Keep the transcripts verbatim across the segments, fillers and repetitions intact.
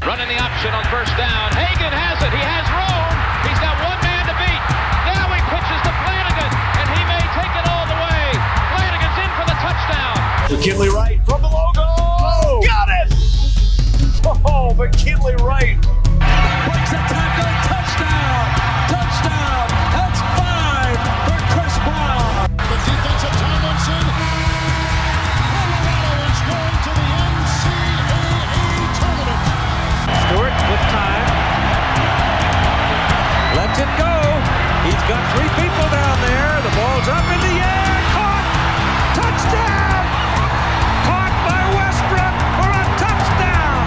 Running the option on first down. Hagan has it. He has room. He's got one man to beat. Now he pitches to Flanagan, and he may take it all the way. Flanagan's in for the touchdown. McKinley Wright from the logo. Oh, got it! Oh, McKinley Wright. Breaks a tackle. Touchdown. Touchdown. That's five for Chris Brown. The defense of Tomlinson. Colorado is going to the N C double A tournament. Stewart with time. Lets it go. He's got three people down there. The ball's up in the air. Caught. Touchdown. Caught by Westbrook for a touchdown.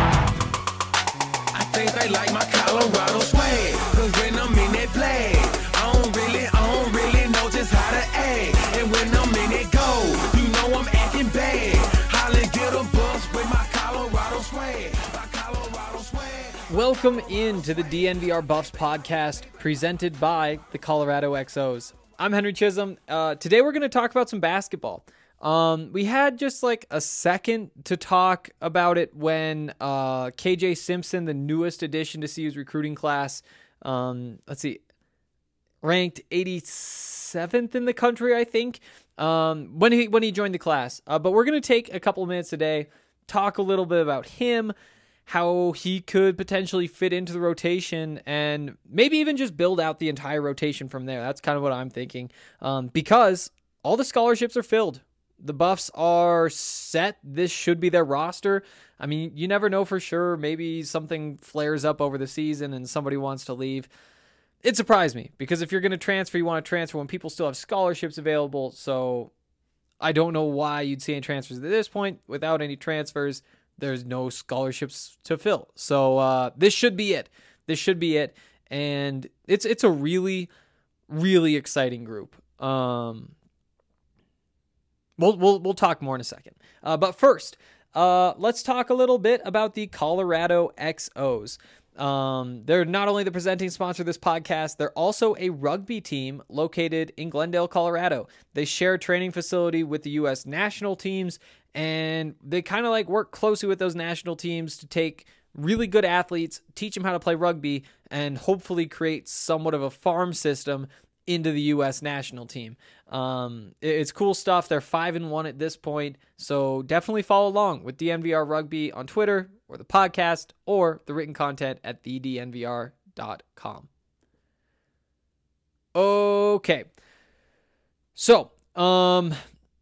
I think they like my Colorado swag. Cause when I'm in that play, I don't really, I don't really know just how to act. And when I'm in it go, you know I'm acting bad. Holly get a bus with my Colorado swag. My Colorado swag. Welcome into the D N V R Buffs podcast presented by the Colorado X Os. I'm Henry Chisholm. Uh, today we're going to talk about some basketball. Um, we had just like a second to talk about it when uh, K J Simpson, the newest addition to C U's recruiting class, um, let's see, ranked eighty-seventh in the country, I think, um, when he when he joined the class. Uh, but we're going to take a couple minutes today, talk a little bit about him, how he could potentially fit into the rotation, and maybe even just build out the entire rotation from there. That's kind of what I'm thinking, um, because all the scholarships are filled. The Buffs are set. This should be their roster. I mean, you never know for sure. Maybe something flares up over the season and somebody wants to leave. It surprised me because if you're going to transfer, you want to transfer when people still have scholarships available. So I don't know why you'd see any transfers at this point. Without any transfers, there's no scholarships to fill. So uh, this should be it. This should be it. And it's it's a really, really exciting group. Um, we'll we'll we'll talk more in a second. Uh, but first, uh, let's talk a little bit about the Colorado X Os. Um, they're not only the presenting sponsor of this podcast, they're also a rugby team located in Glendale, Colorado. They share a training facility with the U S national teams, and they kind of like work closely with those national teams to take really good athletes, teach them how to play rugby, and hopefully create somewhat of a farm system into the U S national team. Um, it's cool stuff. They're five and one at this point, so definitely follow along with D N V R Rugby on Twitter or the podcast or the written content at the d n v r dot com. Okay, so um,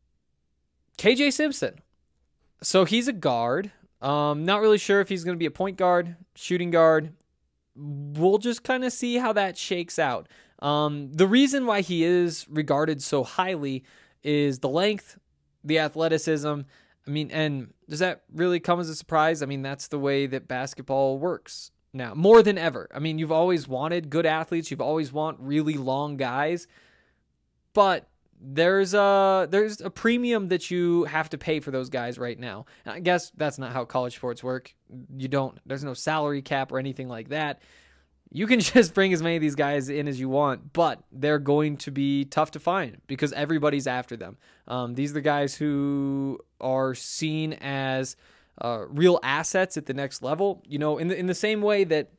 K J Simpson. So he's a guard. Um, not really sure if he's going to be a point guard, shooting guard. We'll just kind of see how that shakes out. Um, the reason why he is regarded so highly is the length, the athleticism. I mean, and does that really come as a surprise? I mean, that's the way that basketball works now, more than ever. I mean, you've always wanted good athletes. You've always want really long guys, but there's a, there's a premium that you have to pay for those guys right now. And I guess that's not how college sports work. You don't, there's no salary cap or anything like that. You can just bring as many of these guys in as you want, but they're going to be tough to find because everybody's after them. Um, these are the guys who are seen as uh, real assets at the next level. You know, in the, in the same way that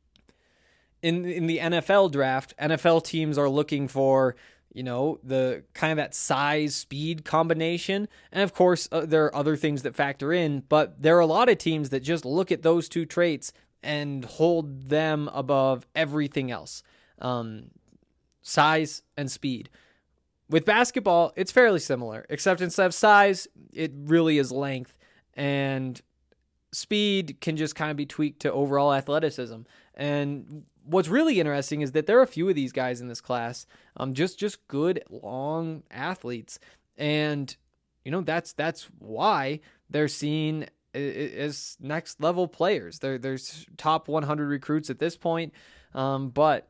in in the N F L draft, N F L teams are looking for, you know, the kind of that size speed combination. And of course, uh, there are other things that factor in, but there are a lot of teams that just look at those two traits and hold them above everything else. Um, size and speed. With basketball, it's fairly similar, except instead of size, it really is length, and speed can just kind of be tweaked to overall athleticism. And what's really interesting is that there are a few of these guys in this class, um, just just good long athletes, and you know that's that's why they're seen as next level players. They're there's top one hundred recruits at this point, um, but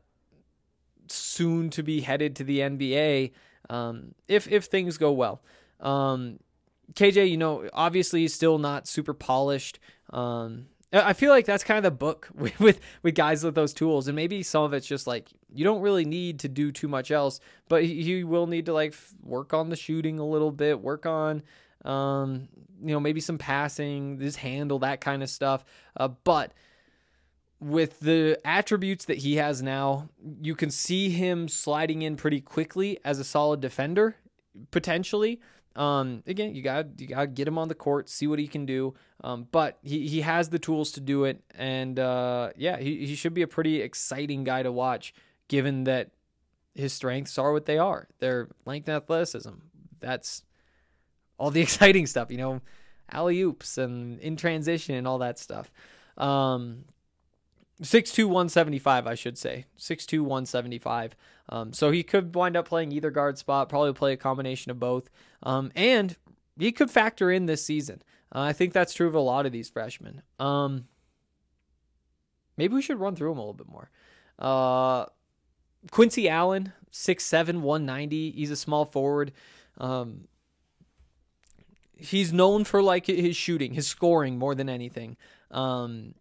soon to be headed to the N B A um, if if things go well. Um, K J, you know, obviously still not super polished. Um, I feel like that's kind of the book with, with with guys with those tools, and maybe some of it's just like you don't really need to do too much else, but you will need to like work on the shooting a little bit, work on um, you know, maybe some passing, his handle, that kind of stuff. Uh, but with the attributes that he has now, you can see him sliding in pretty quickly as a solid defender, potentially. Um, again, you got you got to get him on the court, see what he can do. Um, but he, he has the tools to do it, and uh, yeah, he he should be a pretty exciting guy to watch, given that his strengths are what they are. They're length and athleticism. That's all the exciting stuff, you know, alley-oops and in transition and all that stuff. Um, six two, one seventy-five, I should say. six two, one seventy-five. Um, so he could wind up playing either guard spot, probably play a combination of both. Um, and he could factor in this season. Uh, I think that's true of a lot of these freshmen. Um, maybe we should run through them a little bit more. Uh, Quincy Allen, six seven, one ninety. He's a small forward. Um, he's known for like his shooting, his scoring more than anything. Um,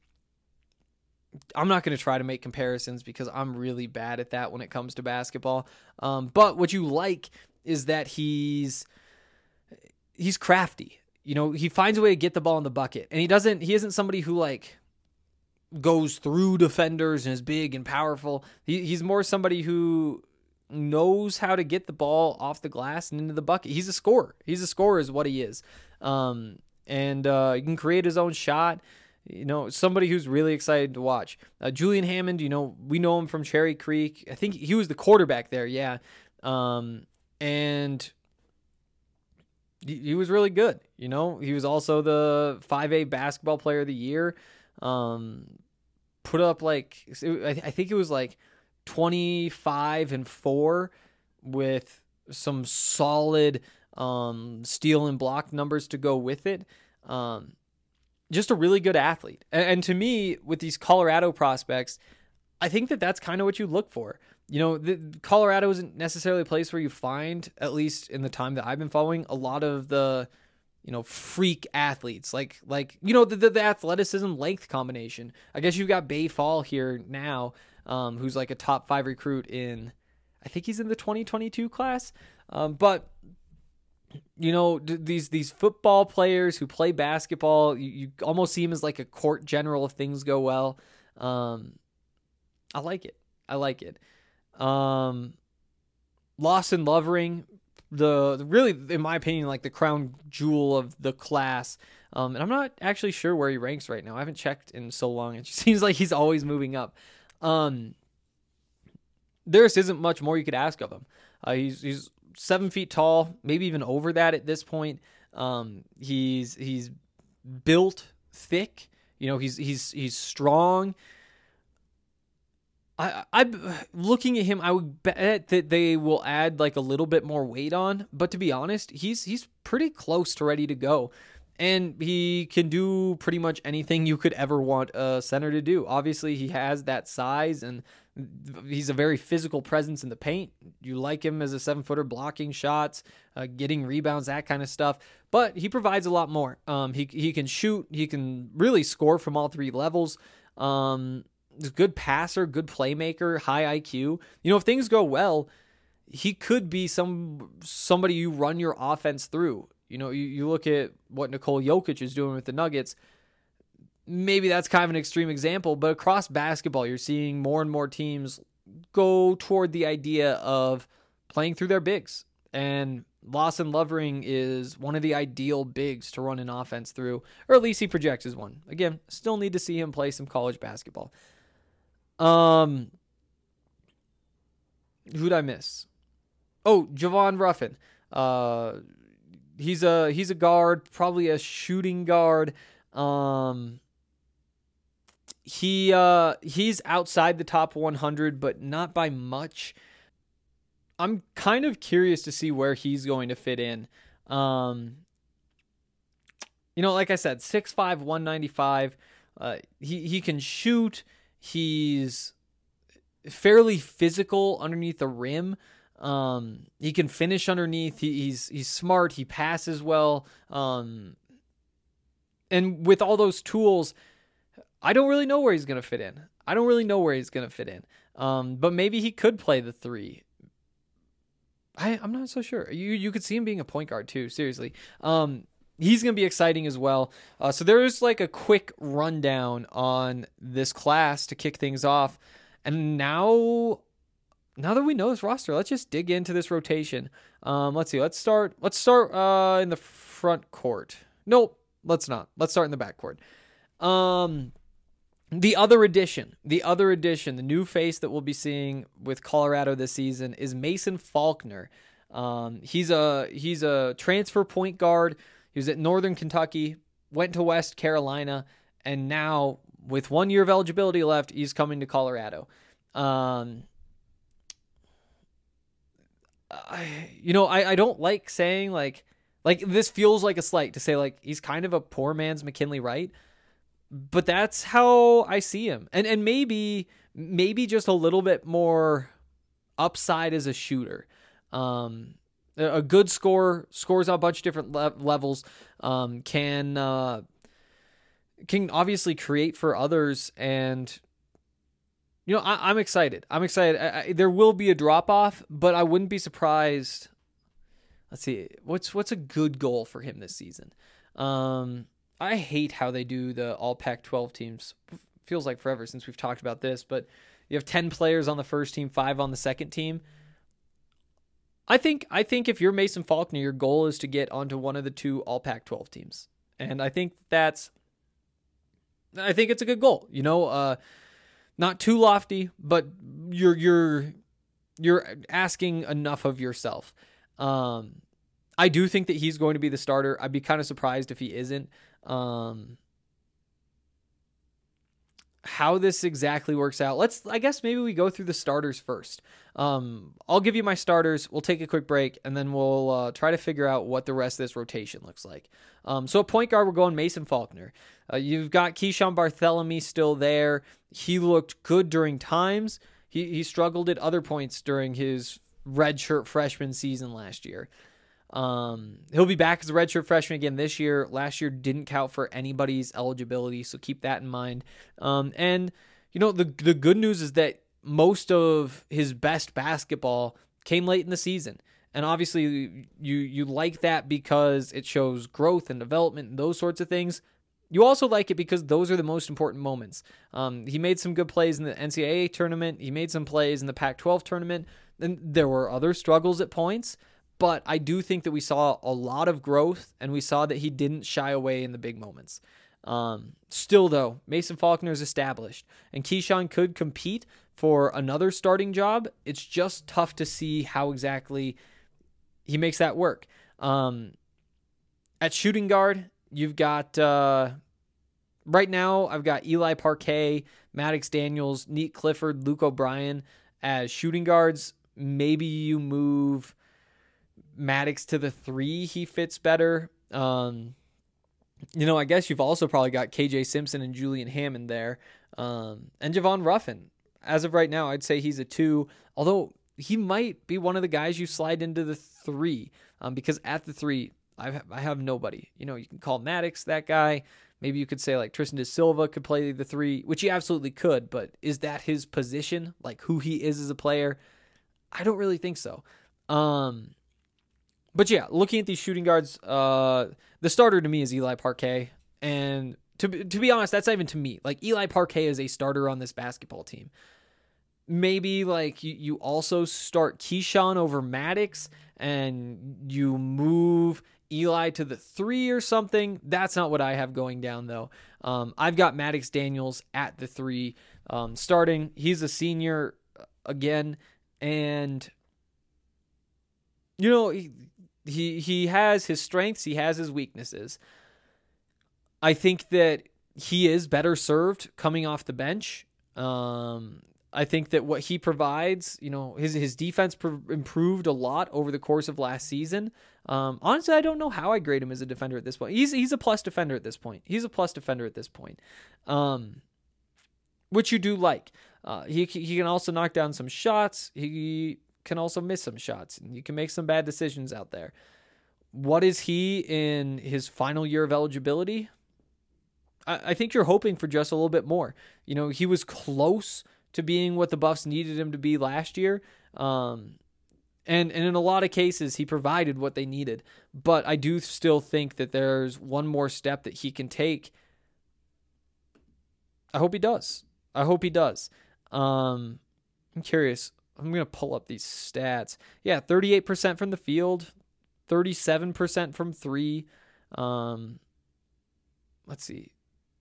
I'm not going to try to make comparisons because I'm really bad at that when it comes to basketball. Um, but what you like is that he's he's crafty. You know, he finds a way to get the ball in the bucket, and he doesn't. He isn't somebody who like goes through defenders and is big and powerful. He, he's more somebody who knows how to get the ball off the glass and into the bucket. He's a scorer. He's a scorer is what he is. Um, and uh, he can create his own shot. You know, somebody who's really excited to watch. Uh, Julian Hammond, you know, we know him from Cherry Creek. I think he was the quarterback there, yeah. Um, and he, he was really good. You know, he was also the five A basketball player of the year. Um, put up like, I think it was like twenty-five and four with some solid um, steal and block numbers to go with it. Um, just a really good athlete. And, and to me, with these Colorado prospects, I think that that's kind of what you look for. You know, the, Colorado isn't necessarily a place where you find, at least in the time that I've been following, a lot of the, you know, freak athletes, like, like you know, the, the, the athleticism length combination. I guess you've got Bay Fall here now, um, who's like a top five recruit in, I think he's in the twenty twenty-two class. Um, but, you know, d- these these football players who play basketball, you, you almost see him as like a court general if things go well. Um, I like it. I like it. Um, Lawson Lovering, the, the really, in my opinion, like the crown jewel of the class. Um, and I'm not actually sure where he ranks right now. I haven't checked in so long. It just seems like he's always moving up. Um, there just isn't much more you could ask of him. Uh, he's he's seven feet tall, maybe even over that at this point. Um, he's he's built thick. You know, he's he's he's strong. I, I'm looking at him. I would bet that they will add like a little bit more weight on, but to be honest, he's he's pretty close to ready to go, and he can do pretty much anything you could ever want a center to do. Obviously, he has that size, and he's a very physical presence in the paint. You like him as a seven footer, blocking shots, uh, getting rebounds, that kind of stuff. But he provides a lot more. Um, he he can shoot. He can really score from all three levels. Um, good passer, good playmaker, high I Q. You know, if things go well, he could be some somebody you run your offense through. You know, you, you look at what Nikola Jokic is doing with the Nuggets. Maybe that's kind of an extreme example, but across basketball, you're seeing more and more teams go toward the idea of playing through their bigs. And Lawson Lovering is one of the ideal bigs to run an offense through, or at least he projects as one. Again, still need to see him play some college basketball. Um, who'd I miss? Oh, Javon Ruffin. Uh, he's a he's a guard, probably a shooting guard. Um, he uh he's outside the top one hundred, but not by much. I'm kind of curious to see where he's going to fit in. Um, you know, like I said, six five, one ninety-five. Uh, he he can shoot. He's fairly physical underneath the rim. Um, he can finish underneath. He, he's he's smart. He passes well. Um, and with all those tools, I don't really know where he's going to fit in. I don't really know where he's going to fit in. Um, but maybe he could play the three. I, I'm not so sure. You you could see him being a point guard too. Seriously. Um, he's going to be exciting as well. Uh, so there's like a quick rundown on this class to kick things off. And now, now that we know this roster, let's just dig into this rotation. Um, let's see. Let's start. Let's start uh, in the front court. Nope. Let's not. Let's start in the back court. Um, the other addition, the other addition, the new face that we'll be seeing with Colorado this season is Mason Faulkner. Um, he's a he's a transfer point guard. He was at Northern Kentucky, went to West Carolina, and now with one year of eligibility left, he's coming to Colorado. Um, I, you know, I, I don't like saying like like this feels like a slight to say like he's kind of a poor man's McKinley Wright, but that's how I see him, and and maybe maybe just a little bit more upside as a shooter. Um, a good scorer, scores on a bunch of different le- levels, um, can, uh, can obviously create for others. And, you know, I, I'm excited. I'm excited. I, I, there will be a drop off, but I wouldn't be surprised. Let's see. What's, what's a good goal for him this season? Um, I hate how they do the all Pac twelve teams. Feels like forever since we've talked about this, but you have ten players on the first team, five on the second team. I think I think if you're Mason Faulkner, your goal is to get onto one of the two all Pac twelve teams. And I think that's I think it's a good goal. You know, uh, not too lofty, but you're you're you're asking enough of yourself. Um, I do think that he's going to be the starter. I'd be kind of surprised if he isn't. Um, how this exactly works out. Let's, I guess maybe we go through the starters first. Um, I'll give you my starters. We'll take a quick break and then we'll uh, try to figure out what the rest of this rotation looks like. Um, so at point guard, we're going Mason Faulkner. Uh, you've got Keyshawn Barthelemy still there. He looked good during times. He, he struggled at other points during his redshirt freshman season last year. Um, he'll be back as a redshirt freshman again this year. Last year didn't count for anybody's eligibility, so keep that in mind. Um, and you know, the the good news is that most of his best basketball came late in the season. And obviously you you like that because it shows growth and development and those sorts of things. You also like it because those are the most important moments. Um, he made some good plays in the N C double A tournament. He made some plays in the Pac twelve tournament. And there were other struggles at points. But I do think that we saw a lot of growth, and we saw that he didn't shy away in the big moments. Um, still, though, Mason Faulkner is established, and Keyshawn could compete for another starting job. It's just tough to see how exactly he makes that work. Um, at shooting guard, you've got, uh, right now, I've got Eli Parquet, Maddox Daniels, Neat Clifford, Luke O'Brien as shooting guards. Maybe you move Maddox to the three, he fits better. Um, you know, I guess you've also probably got K J Simpson and Julian Hammond there. Um, and Javon Ruffin. As of right now, I'd say he's a two, although he might be one of the guys you slide into the three, um, because at the three, I have, I have nobody. You know, you can call Maddox that guy. Maybe you could say like Tristan De Silva could play the three, which he absolutely could, but is that his position? Like who he is as a player? I don't really think so. Um, But yeah, looking at these shooting guards, uh, the starter to me is Eli Parquet. And to, to be honest, that's not even to me. Like, Eli Parquet is a starter on this basketball team. Maybe, like, you, you also start Keyshawn over Maddox, and you move Eli to the three or something. That's not what I have going down, though. Um, I've got Maddox Daniels at the three um, starting. He's a senior again, and, you know, he, He he has his strengths, he has his weaknesses. I think that he is better served coming off the bench. Um, I think that what he provides, you know, his his defense pr- improved a lot over the course of last season. Um, honestly, I don't know how I grade him as a defender at this point. He's he's a plus defender at this point. He's a plus defender at this point, um, which you do like. Uh, he he can also knock down some shots. He can also miss some shots, and you can make some bad decisions out there. What is he in his final year of eligibility? I, I think you're hoping for just a little bit more. You know, he was close to being what the Buffs needed him to be last year. Um, And, and in a lot of cases, he provided what they needed. But I do still think that there's one more step that he can take. I hope he does. I hope he does. Um, I'm curious. I'm going to pull up these stats. Yeah, thirty-eight percent from the field, thirty-seven percent from three. Um, let's see.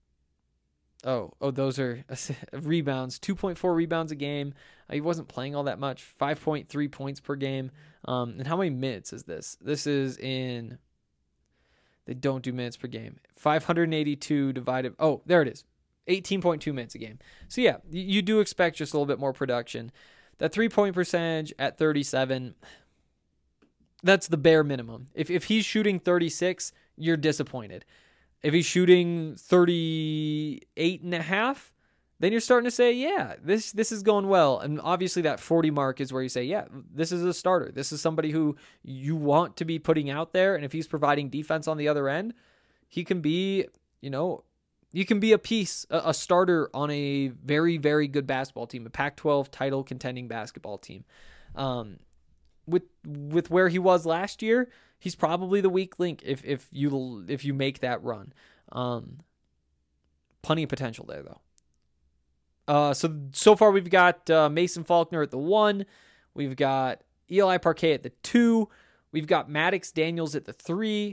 Oh, oh, those are rebounds. two point four rebounds a game. Uh, he wasn't playing all that much. five point three points per game. Um, and how many minutes is this? This is in... They don't do minutes per game. five hundred eighty-two divided... Oh, there it is. eighteen point two minutes a game. So, yeah, you, you do expect just a little bit more production. That three-point percentage at thirty-seven, that's the bare minimum. If if he's shooting thirty-six, you're disappointed. If he's shooting thirty-eight and a half, then you're starting to say, yeah, this this is going well. And obviously that forty mark is where you say, yeah, this is a starter. This is somebody who you want to be putting out there. And if he's providing defense on the other end, he can be, you know, you can be a piece, a, a starter on a very, very good basketball team, a Pac twelve title contending basketball team. Um, with with where he was last year, he's probably the weak link if if you if you make that run. Um, plenty of potential there though. Uh, so so far we've got uh, Mason Faulkner at the one, we've got Eli Parquet at the two, we've got Maddox Daniels at the three,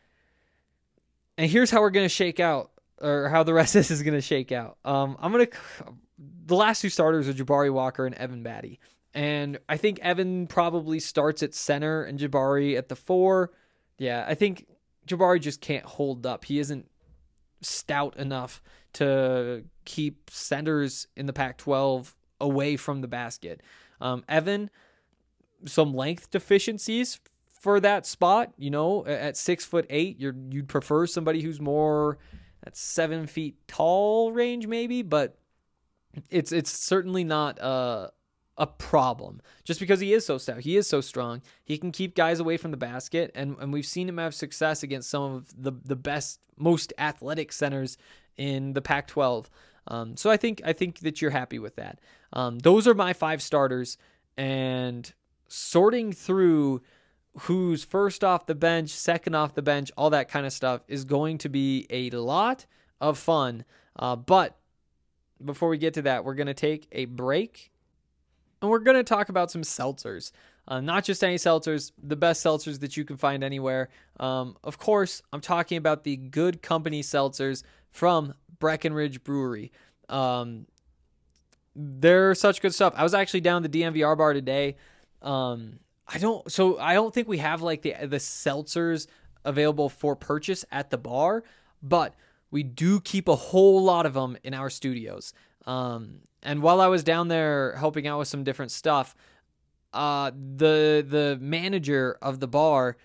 and here's how we're gonna shake out, or how the rest of this is gonna shake out. Um, I'm gonna the last two starters are Jabari Walker and Evan Batty. And I think Evan probably starts at center and Jabari at the four. Yeah, I think Jabari just can't hold up. He isn't stout enough to keep centers in the Pac twelve away from the basket. Um, Evan, some length deficiencies for that spot. You know, at six foot eight, you're you'd prefer somebody who's more at seven feet tall range, maybe, but it's it's certainly not uh a problem just because he is so stout. He is so strong. He can keep guys away from the basket, and, and we've seen him have success against some of the, the best, most athletic centers in the Pac twelve. Um, so I think I think that you're happy with that. Um, those are my five starters, and sorting through who's first off the bench, second off the bench, all that kind of stuff is going to be a lot of fun. Uh, but before we get to that, we're going to take a break. And we're going to talk about some seltzers. Uh, not just any seltzers, the best seltzers that you can find anywhere. Um, of course, I'm talking about the Good Company seltzers from Breckenridge Brewery. Um, they're such good stuff. I was actually down at the D N V R bar today. Um, I don't, so I don't think we have like the the seltzers available for purchase at the bar, but we do keep a whole lot of them in our studios. Um, and while I was down there helping out with some different stuff, uh, the the manager of the bar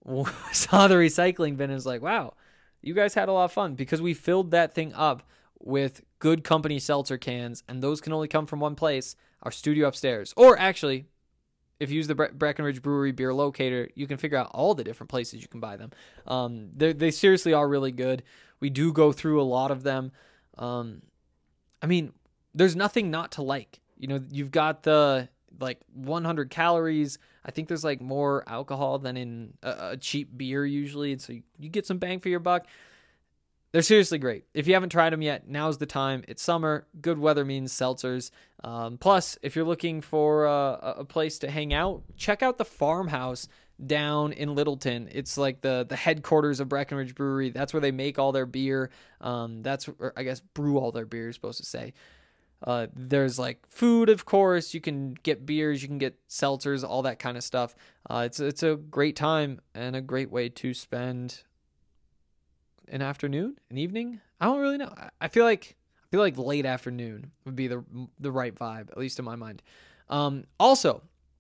saw the recycling bin and was like, wow, you guys had a lot of fun, because we filled that thing up with Good Company seltzer cans, and those can only come from one place, our studio upstairs. Or actually, if you use the Bre- Breckenridge Brewery beer locator, you can figure out all the different places you can buy them. Um, they seriously are really good. We do go through a lot of them. Um, I mean, there's nothing not to like. You know, you've got the like one hundred calories. I think there's like more alcohol than in a, a cheap beer usually. And so you, you get some bang for your buck. They're seriously great. If you haven't tried them yet, now's the time. It's summer. Good weather means seltzers. Um, plus, if you're looking for uh, a place to hang out, check out the Farmhouse down in Littleton. It's like the the headquarters of Breckenridge Brewery. That's where they make all their beer. Um, that's or I guess brew all their beer, you're supposed to say. Uh, there's like food, of course. You can get beers, you can get seltzers, all that kind of stuff. Uh, it's it's a great time and a great way to spend an afternoon, an evening. I don't really know. I feel like I feel like late afternoon would be the the right vibe, at least in my mind. Um, also,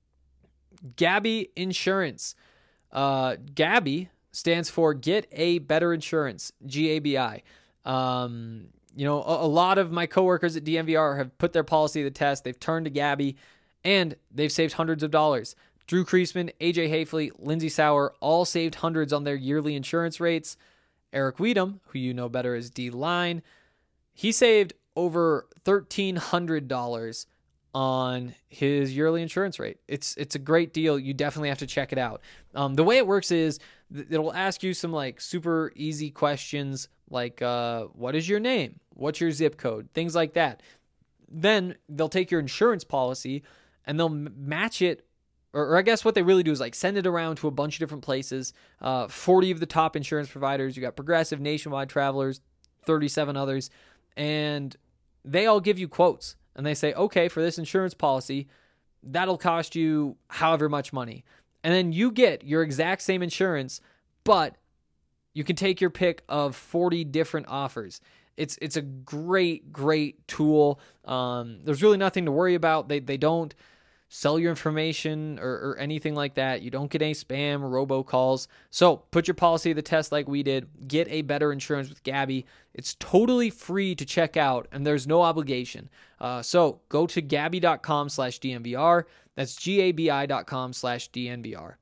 Gabi Insurance. Uh, Gabi stands for Get a Better Insurance, G A B I. Um, you know, a, a lot of my coworkers at D N V R have put their policy to the test. They've turned to Gabi, and they've saved hundreds of dollars. Drew Kreisman, A J Hafley, Lindsey Sauer all saved hundreds on their yearly insurance rates. Eric Weedham, who you know better as D-Line, he saved over thirteen hundred dollars on his yearly insurance rate. It's it's a great deal. You definitely have to check it out. Um, the way it works is th- it'll ask you some like super easy questions like uh, what is your name? What's your zip code? Things like that. Then they'll take your insurance policy and they'll m- match it, or, or I guess what they really do is like send it around to a bunch of different places. Uh, forty of the top insurance providers. You got Progressive, Nationwide, Travelers, thirty-seven others, and they all give you quotes. And they say, okay, for this insurance policy, that'll cost you however much money. And then you get your exact same insurance, but you can take your pick of forty different offers. It's it's a great, great tool. Um, there's really nothing to worry about. They they don't sell your information or, or anything like that. You don't get any spam or robocalls. So put your policy to the test like we did. Get a better insurance with Gabi. It's totally free to check out, and there's no obligation. Uh, so go to Gabi.com slash DNVR. That's G-A-B-I dot com slash DNVR.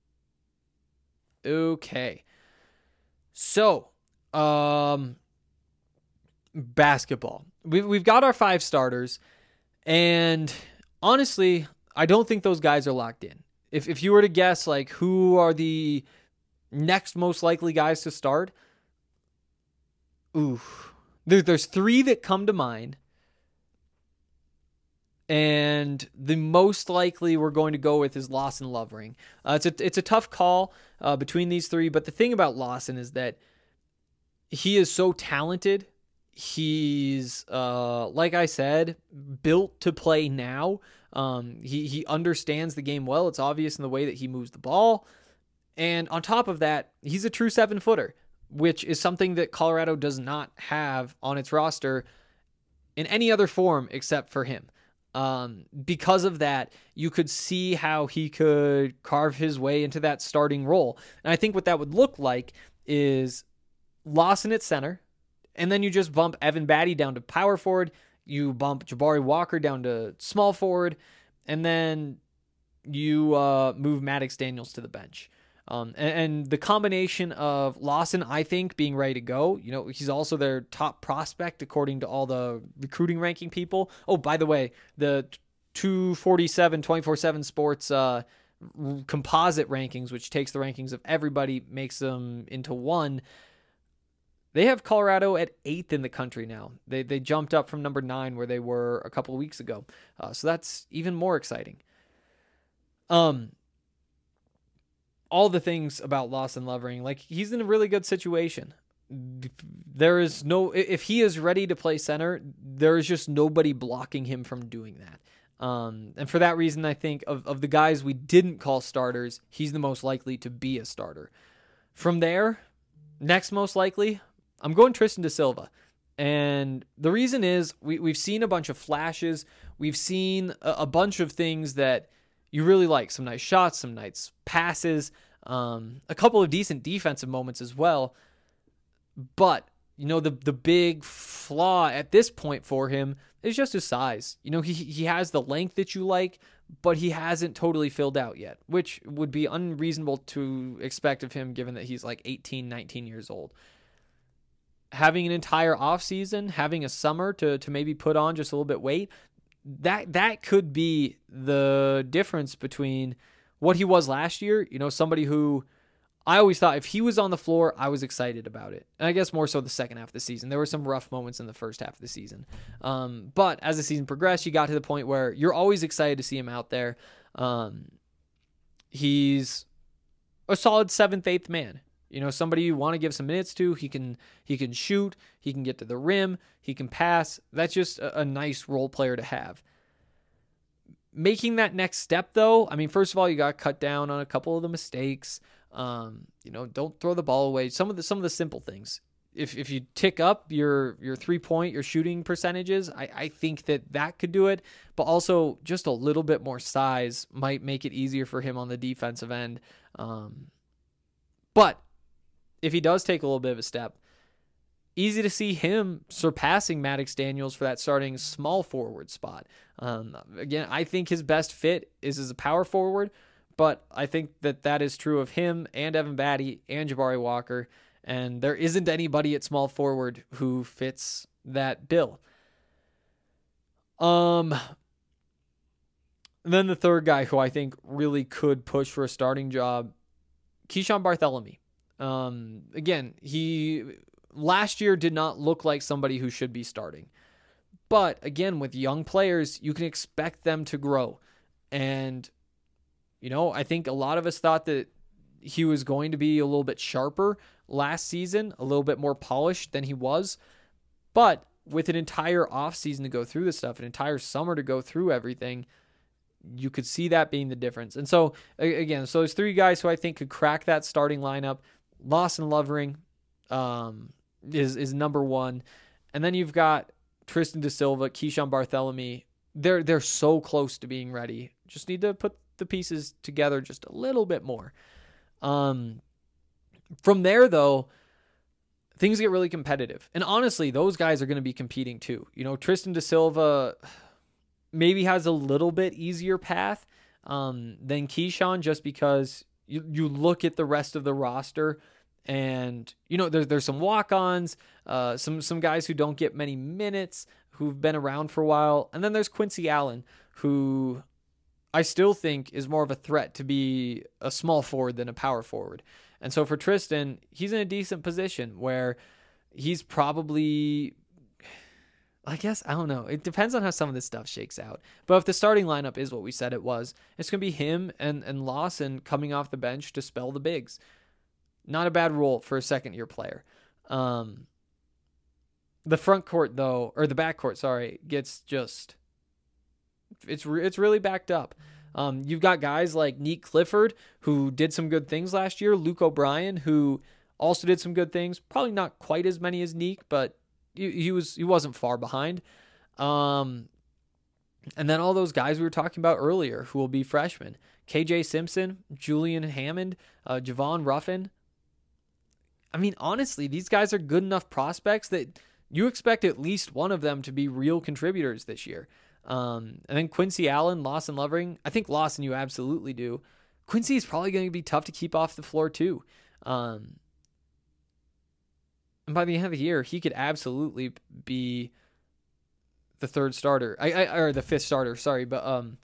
Okay. So, um, basketball. We've, we've got our five starters, and honestly, I don't think those guys are locked in. If if you were to guess, like, who are the next most likely guys to start, ooh, there, there's three that come to mind. And the most likely we're going to go with is Lawson Lovering. Uh, it's a it's a tough call uh, between these three, but the thing about Lawson is that he is so talented. He's, uh, like I said, built to play now. Um, he he understands the game well. It's obvious in the way that he moves the ball. And on top of that, he's a true seven-footer, which is something that Colorado does not have on its roster in any other form except for him. Um, because of that, you could see how he could carve his way into that starting role. And I think what that would look like is Lawson at center, and then you just bump Evan Batty down to power forward, you bump Jabari Walker down to small forward, and then you uh, move Maddox Daniels to the bench. Um, and, and the combination of Lawson, I think, being ready to go, you know, he's also their top prospect according to all the recruiting ranking people. Oh, by the way, the two forty-seven, twenty-four seven Sports uh, composite rankings, which takes the rankings of everybody, makes them into one. They have Colorado at eighth in the country now. They they jumped up from number nine where they were a couple of weeks ago. Uh, so that's even more exciting. Um. All the things about Lawson Lovering, like, he's in a really good situation. There is no, if he is ready to play center, there is just nobody blocking him from doing that. Um, and for that reason, I think of, of the guys we didn't call starters, he's the most likely to be a starter. From there, next most likely, I'm going Tristan da Silva. And the reason is we, we've seen a bunch of flashes. We've seen a, a bunch of things that you really like. Some nice shots, some nice passes, um, a couple of decent defensive moments as well. But, you know, the the big flaw at this point for him is just his size. You know, he he has the length that you like, but he hasn't totally filled out yet, which would be unreasonable to expect of him given that he's like eighteen, nineteen years old. Having an entire offseason, having a summer to to maybe put on just a little bit weight, that that could be the difference between what he was last year. You know, somebody who I always thought if he was on the floor, I was excited about it. And I guess more so the second half of the season. There were some rough moments in the first half of the season. Um, but as the season progressed, you got to the point where you're always excited to see him out there. Um, he's a solid seventh, eighth man. You know, somebody you want to give some minutes to. He can he can shoot. He can get to the rim. He can pass. That's just a, a nice role player to have. Making that next step, though, I mean, first of all, you got to cut down on a couple of the mistakes. Um, you know, don't throw the ball away. Some of the some of the simple things. If if you tick up your your three point, your shooting percentages, I, I think that that could do it. But also, just a little bit more size might make it easier for him on the defensive end. Um, but if he does take a little bit of a step, easy to see him surpassing Maddox Daniels for that starting small forward spot. Um, again, I think his best fit is as a power forward, but I think that that is true of him and Evan Batty and Jabari Walker, and there isn't anybody at small forward who fits that bill. Um, And then the third guy who I think really could push for a starting job, Keeshawn Bartholomew. Um, again, he last year did not look like somebody who should be starting. But again, with young players, you can expect them to grow. And, you know, I think a lot of us thought that he was going to be a little bit sharper last season, a little bit more polished than he was. But with an entire offseason to go through this stuff, an entire summer to go through everything, you could see that being the difference. And so, again, so there's three guys who I think could crack that starting lineup. Lawson Lovering um, is is number one. And then you've got Tristan Da Silva, Keeshawn Bartholomew. They're, they're so close to being ready. Just need to put the pieces together just a little bit more. Um, from there, though, things get really competitive. And honestly, those guys are going to be competing too. You know, Tristan Da Silva maybe has a little bit easier path um, than Keeshawn, just because you, you look at the rest of the roster and, you know, there's, there's some walk-ons, uh, some, some guys who don't get many minutes, who've been around for a while. And then there's Quincy Allen, who I still think is more of a threat to be a small forward than a power forward. And so for Tristan, he's in a decent position where he's probably, I guess, I don't know. It depends on how some of this stuff shakes out. But if the starting lineup is what we said it was, it's going to be him and, and Lawson coming off the bench to spell the bigs. Not a bad role for a second-year player. Um, the front court, though, or the back court, sorry, gets just, it's re- it's really backed up. Um, you've got guys like Nick Clifford, who did some good things last year. Luke O'Brien, who also did some good things. Probably not quite as many as Nick, but he, he was he wasn't far behind. Um, and then all those guys we were talking about earlier, who will be freshmen: K J Simpson, Julian Hammond, uh, Javon Ruffin. I mean, honestly, these guys are good enough prospects that you expect at least one of them to be real contributors this year. Um, and then Quincy Allen, Lawson Lovering. I think Lawson you absolutely do. Quincy is probably going to be tough to keep off the floor too. Um, and by the end of the year, he could absolutely be the third starter. I, I or the fifth starter, sorry. But um,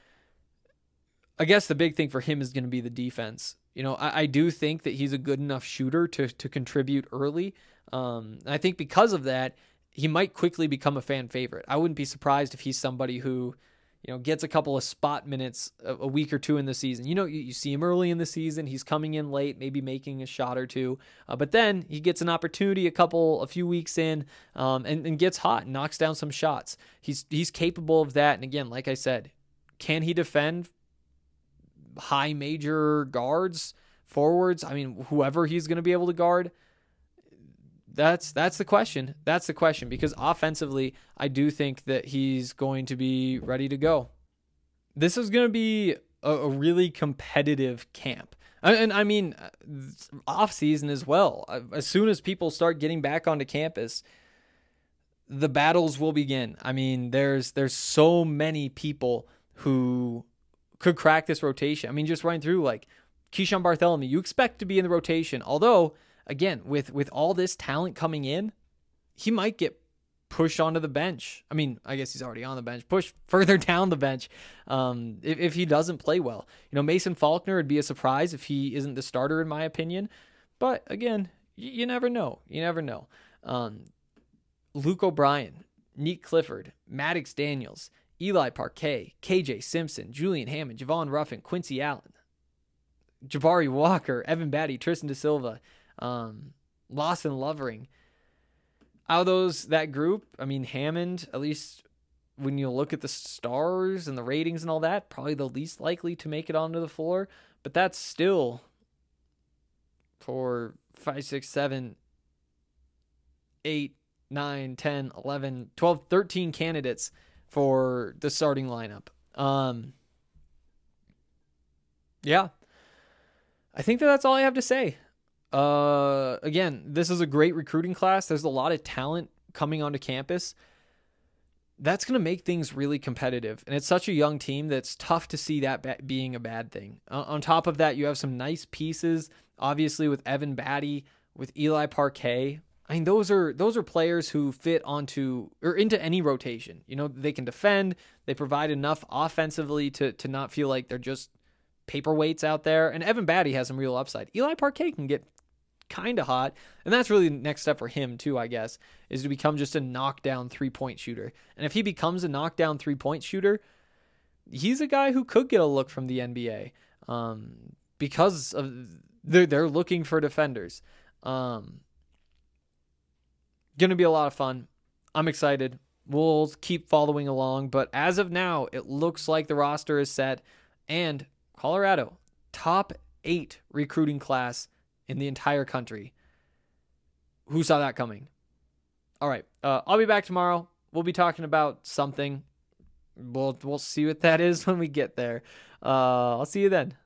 I guess the big thing for him is going to be the defense. You know, I, I do think that he's a good enough shooter to to contribute early. Um, and I think because of that, he might quickly become a fan favorite. I wouldn't be surprised if he's somebody who, you know, gets a couple of spot minutes a, a week or two in the season. You know, you, you see him early in the season. He's coming in late, maybe making a shot or two. Uh, but then he gets an opportunity a couple, a few weeks in um, and, and gets hot and knocks down some shots. He's, he's capable of that. And again, like I said, can he defend high major guards, forwards? I mean, whoever he's going to be able to guard, That's that's the question. That's the question because offensively, I do think that he's going to be ready to go. This is going to be a, a really competitive camp. And, and I mean, off season as well. As soon as people start getting back onto campus, the battles will begin. I mean, there's there's so many people who could crack this rotation. I mean, just running through like Keeshawn Bartholomew, you expect to be in the rotation, although again, with, with all this talent coming in, he might get pushed onto the bench. I mean, I guess he's already on the bench, pushed further down the bench um, if, if he doesn't play well. You know, Mason Faulkner, would be a surprise if he isn't the starter, in my opinion. But again, you, you never know. You never know. Um, Luke O'Brien, Nick Clifford, Maddox Daniels, Eli Parquet, K J Simpson, Julian Hammond, Javon Ruffin, Quincy Allen, Jabari Walker, Evan Batty, Tristan Da Silva, Um, Lawson Lovering. Out of those, that group, I mean, Hammond, at least when you look at the stars and the ratings and all that, probably the least likely to make it onto the floor. But that's still for five, six, seven, eight, nine, ten, eleven, twelve, thirteen candidates for the starting lineup. Um, yeah. I think that that's all I have to say. Uh, again, this is a great recruiting class. There's a lot of talent coming onto campus. That's going to make things really competitive. And it's such a young team that's tough to see that ba- being a bad thing. Uh, on top of that, you have some nice pieces, obviously with Evan Batty, with Eli Parquet. I mean, those are those are players who fit onto or into any rotation. You know, they can defend. They provide enough offensively to to not feel like they're just paperweights out there. And Evan Batty has some real upside. Eli Parquet can get kind of hot, and that's really the next step for him too, I guess, is to become just a knockdown three-point shooter. And if he becomes a knockdown three-point shooter, he's a guy who could get a look from the N B A um, because of they're they're looking for defenders. Um, Going to be a lot of fun. I'm excited. We'll keep following along. But as of now, it looks like the roster is set. And Colorado, top eight recruiting class in the entire country. Who saw that coming? All right. Uh, I'll be back tomorrow. We'll be talking about something. We'll, we'll see what that is when we get there. Uh, I'll see you then.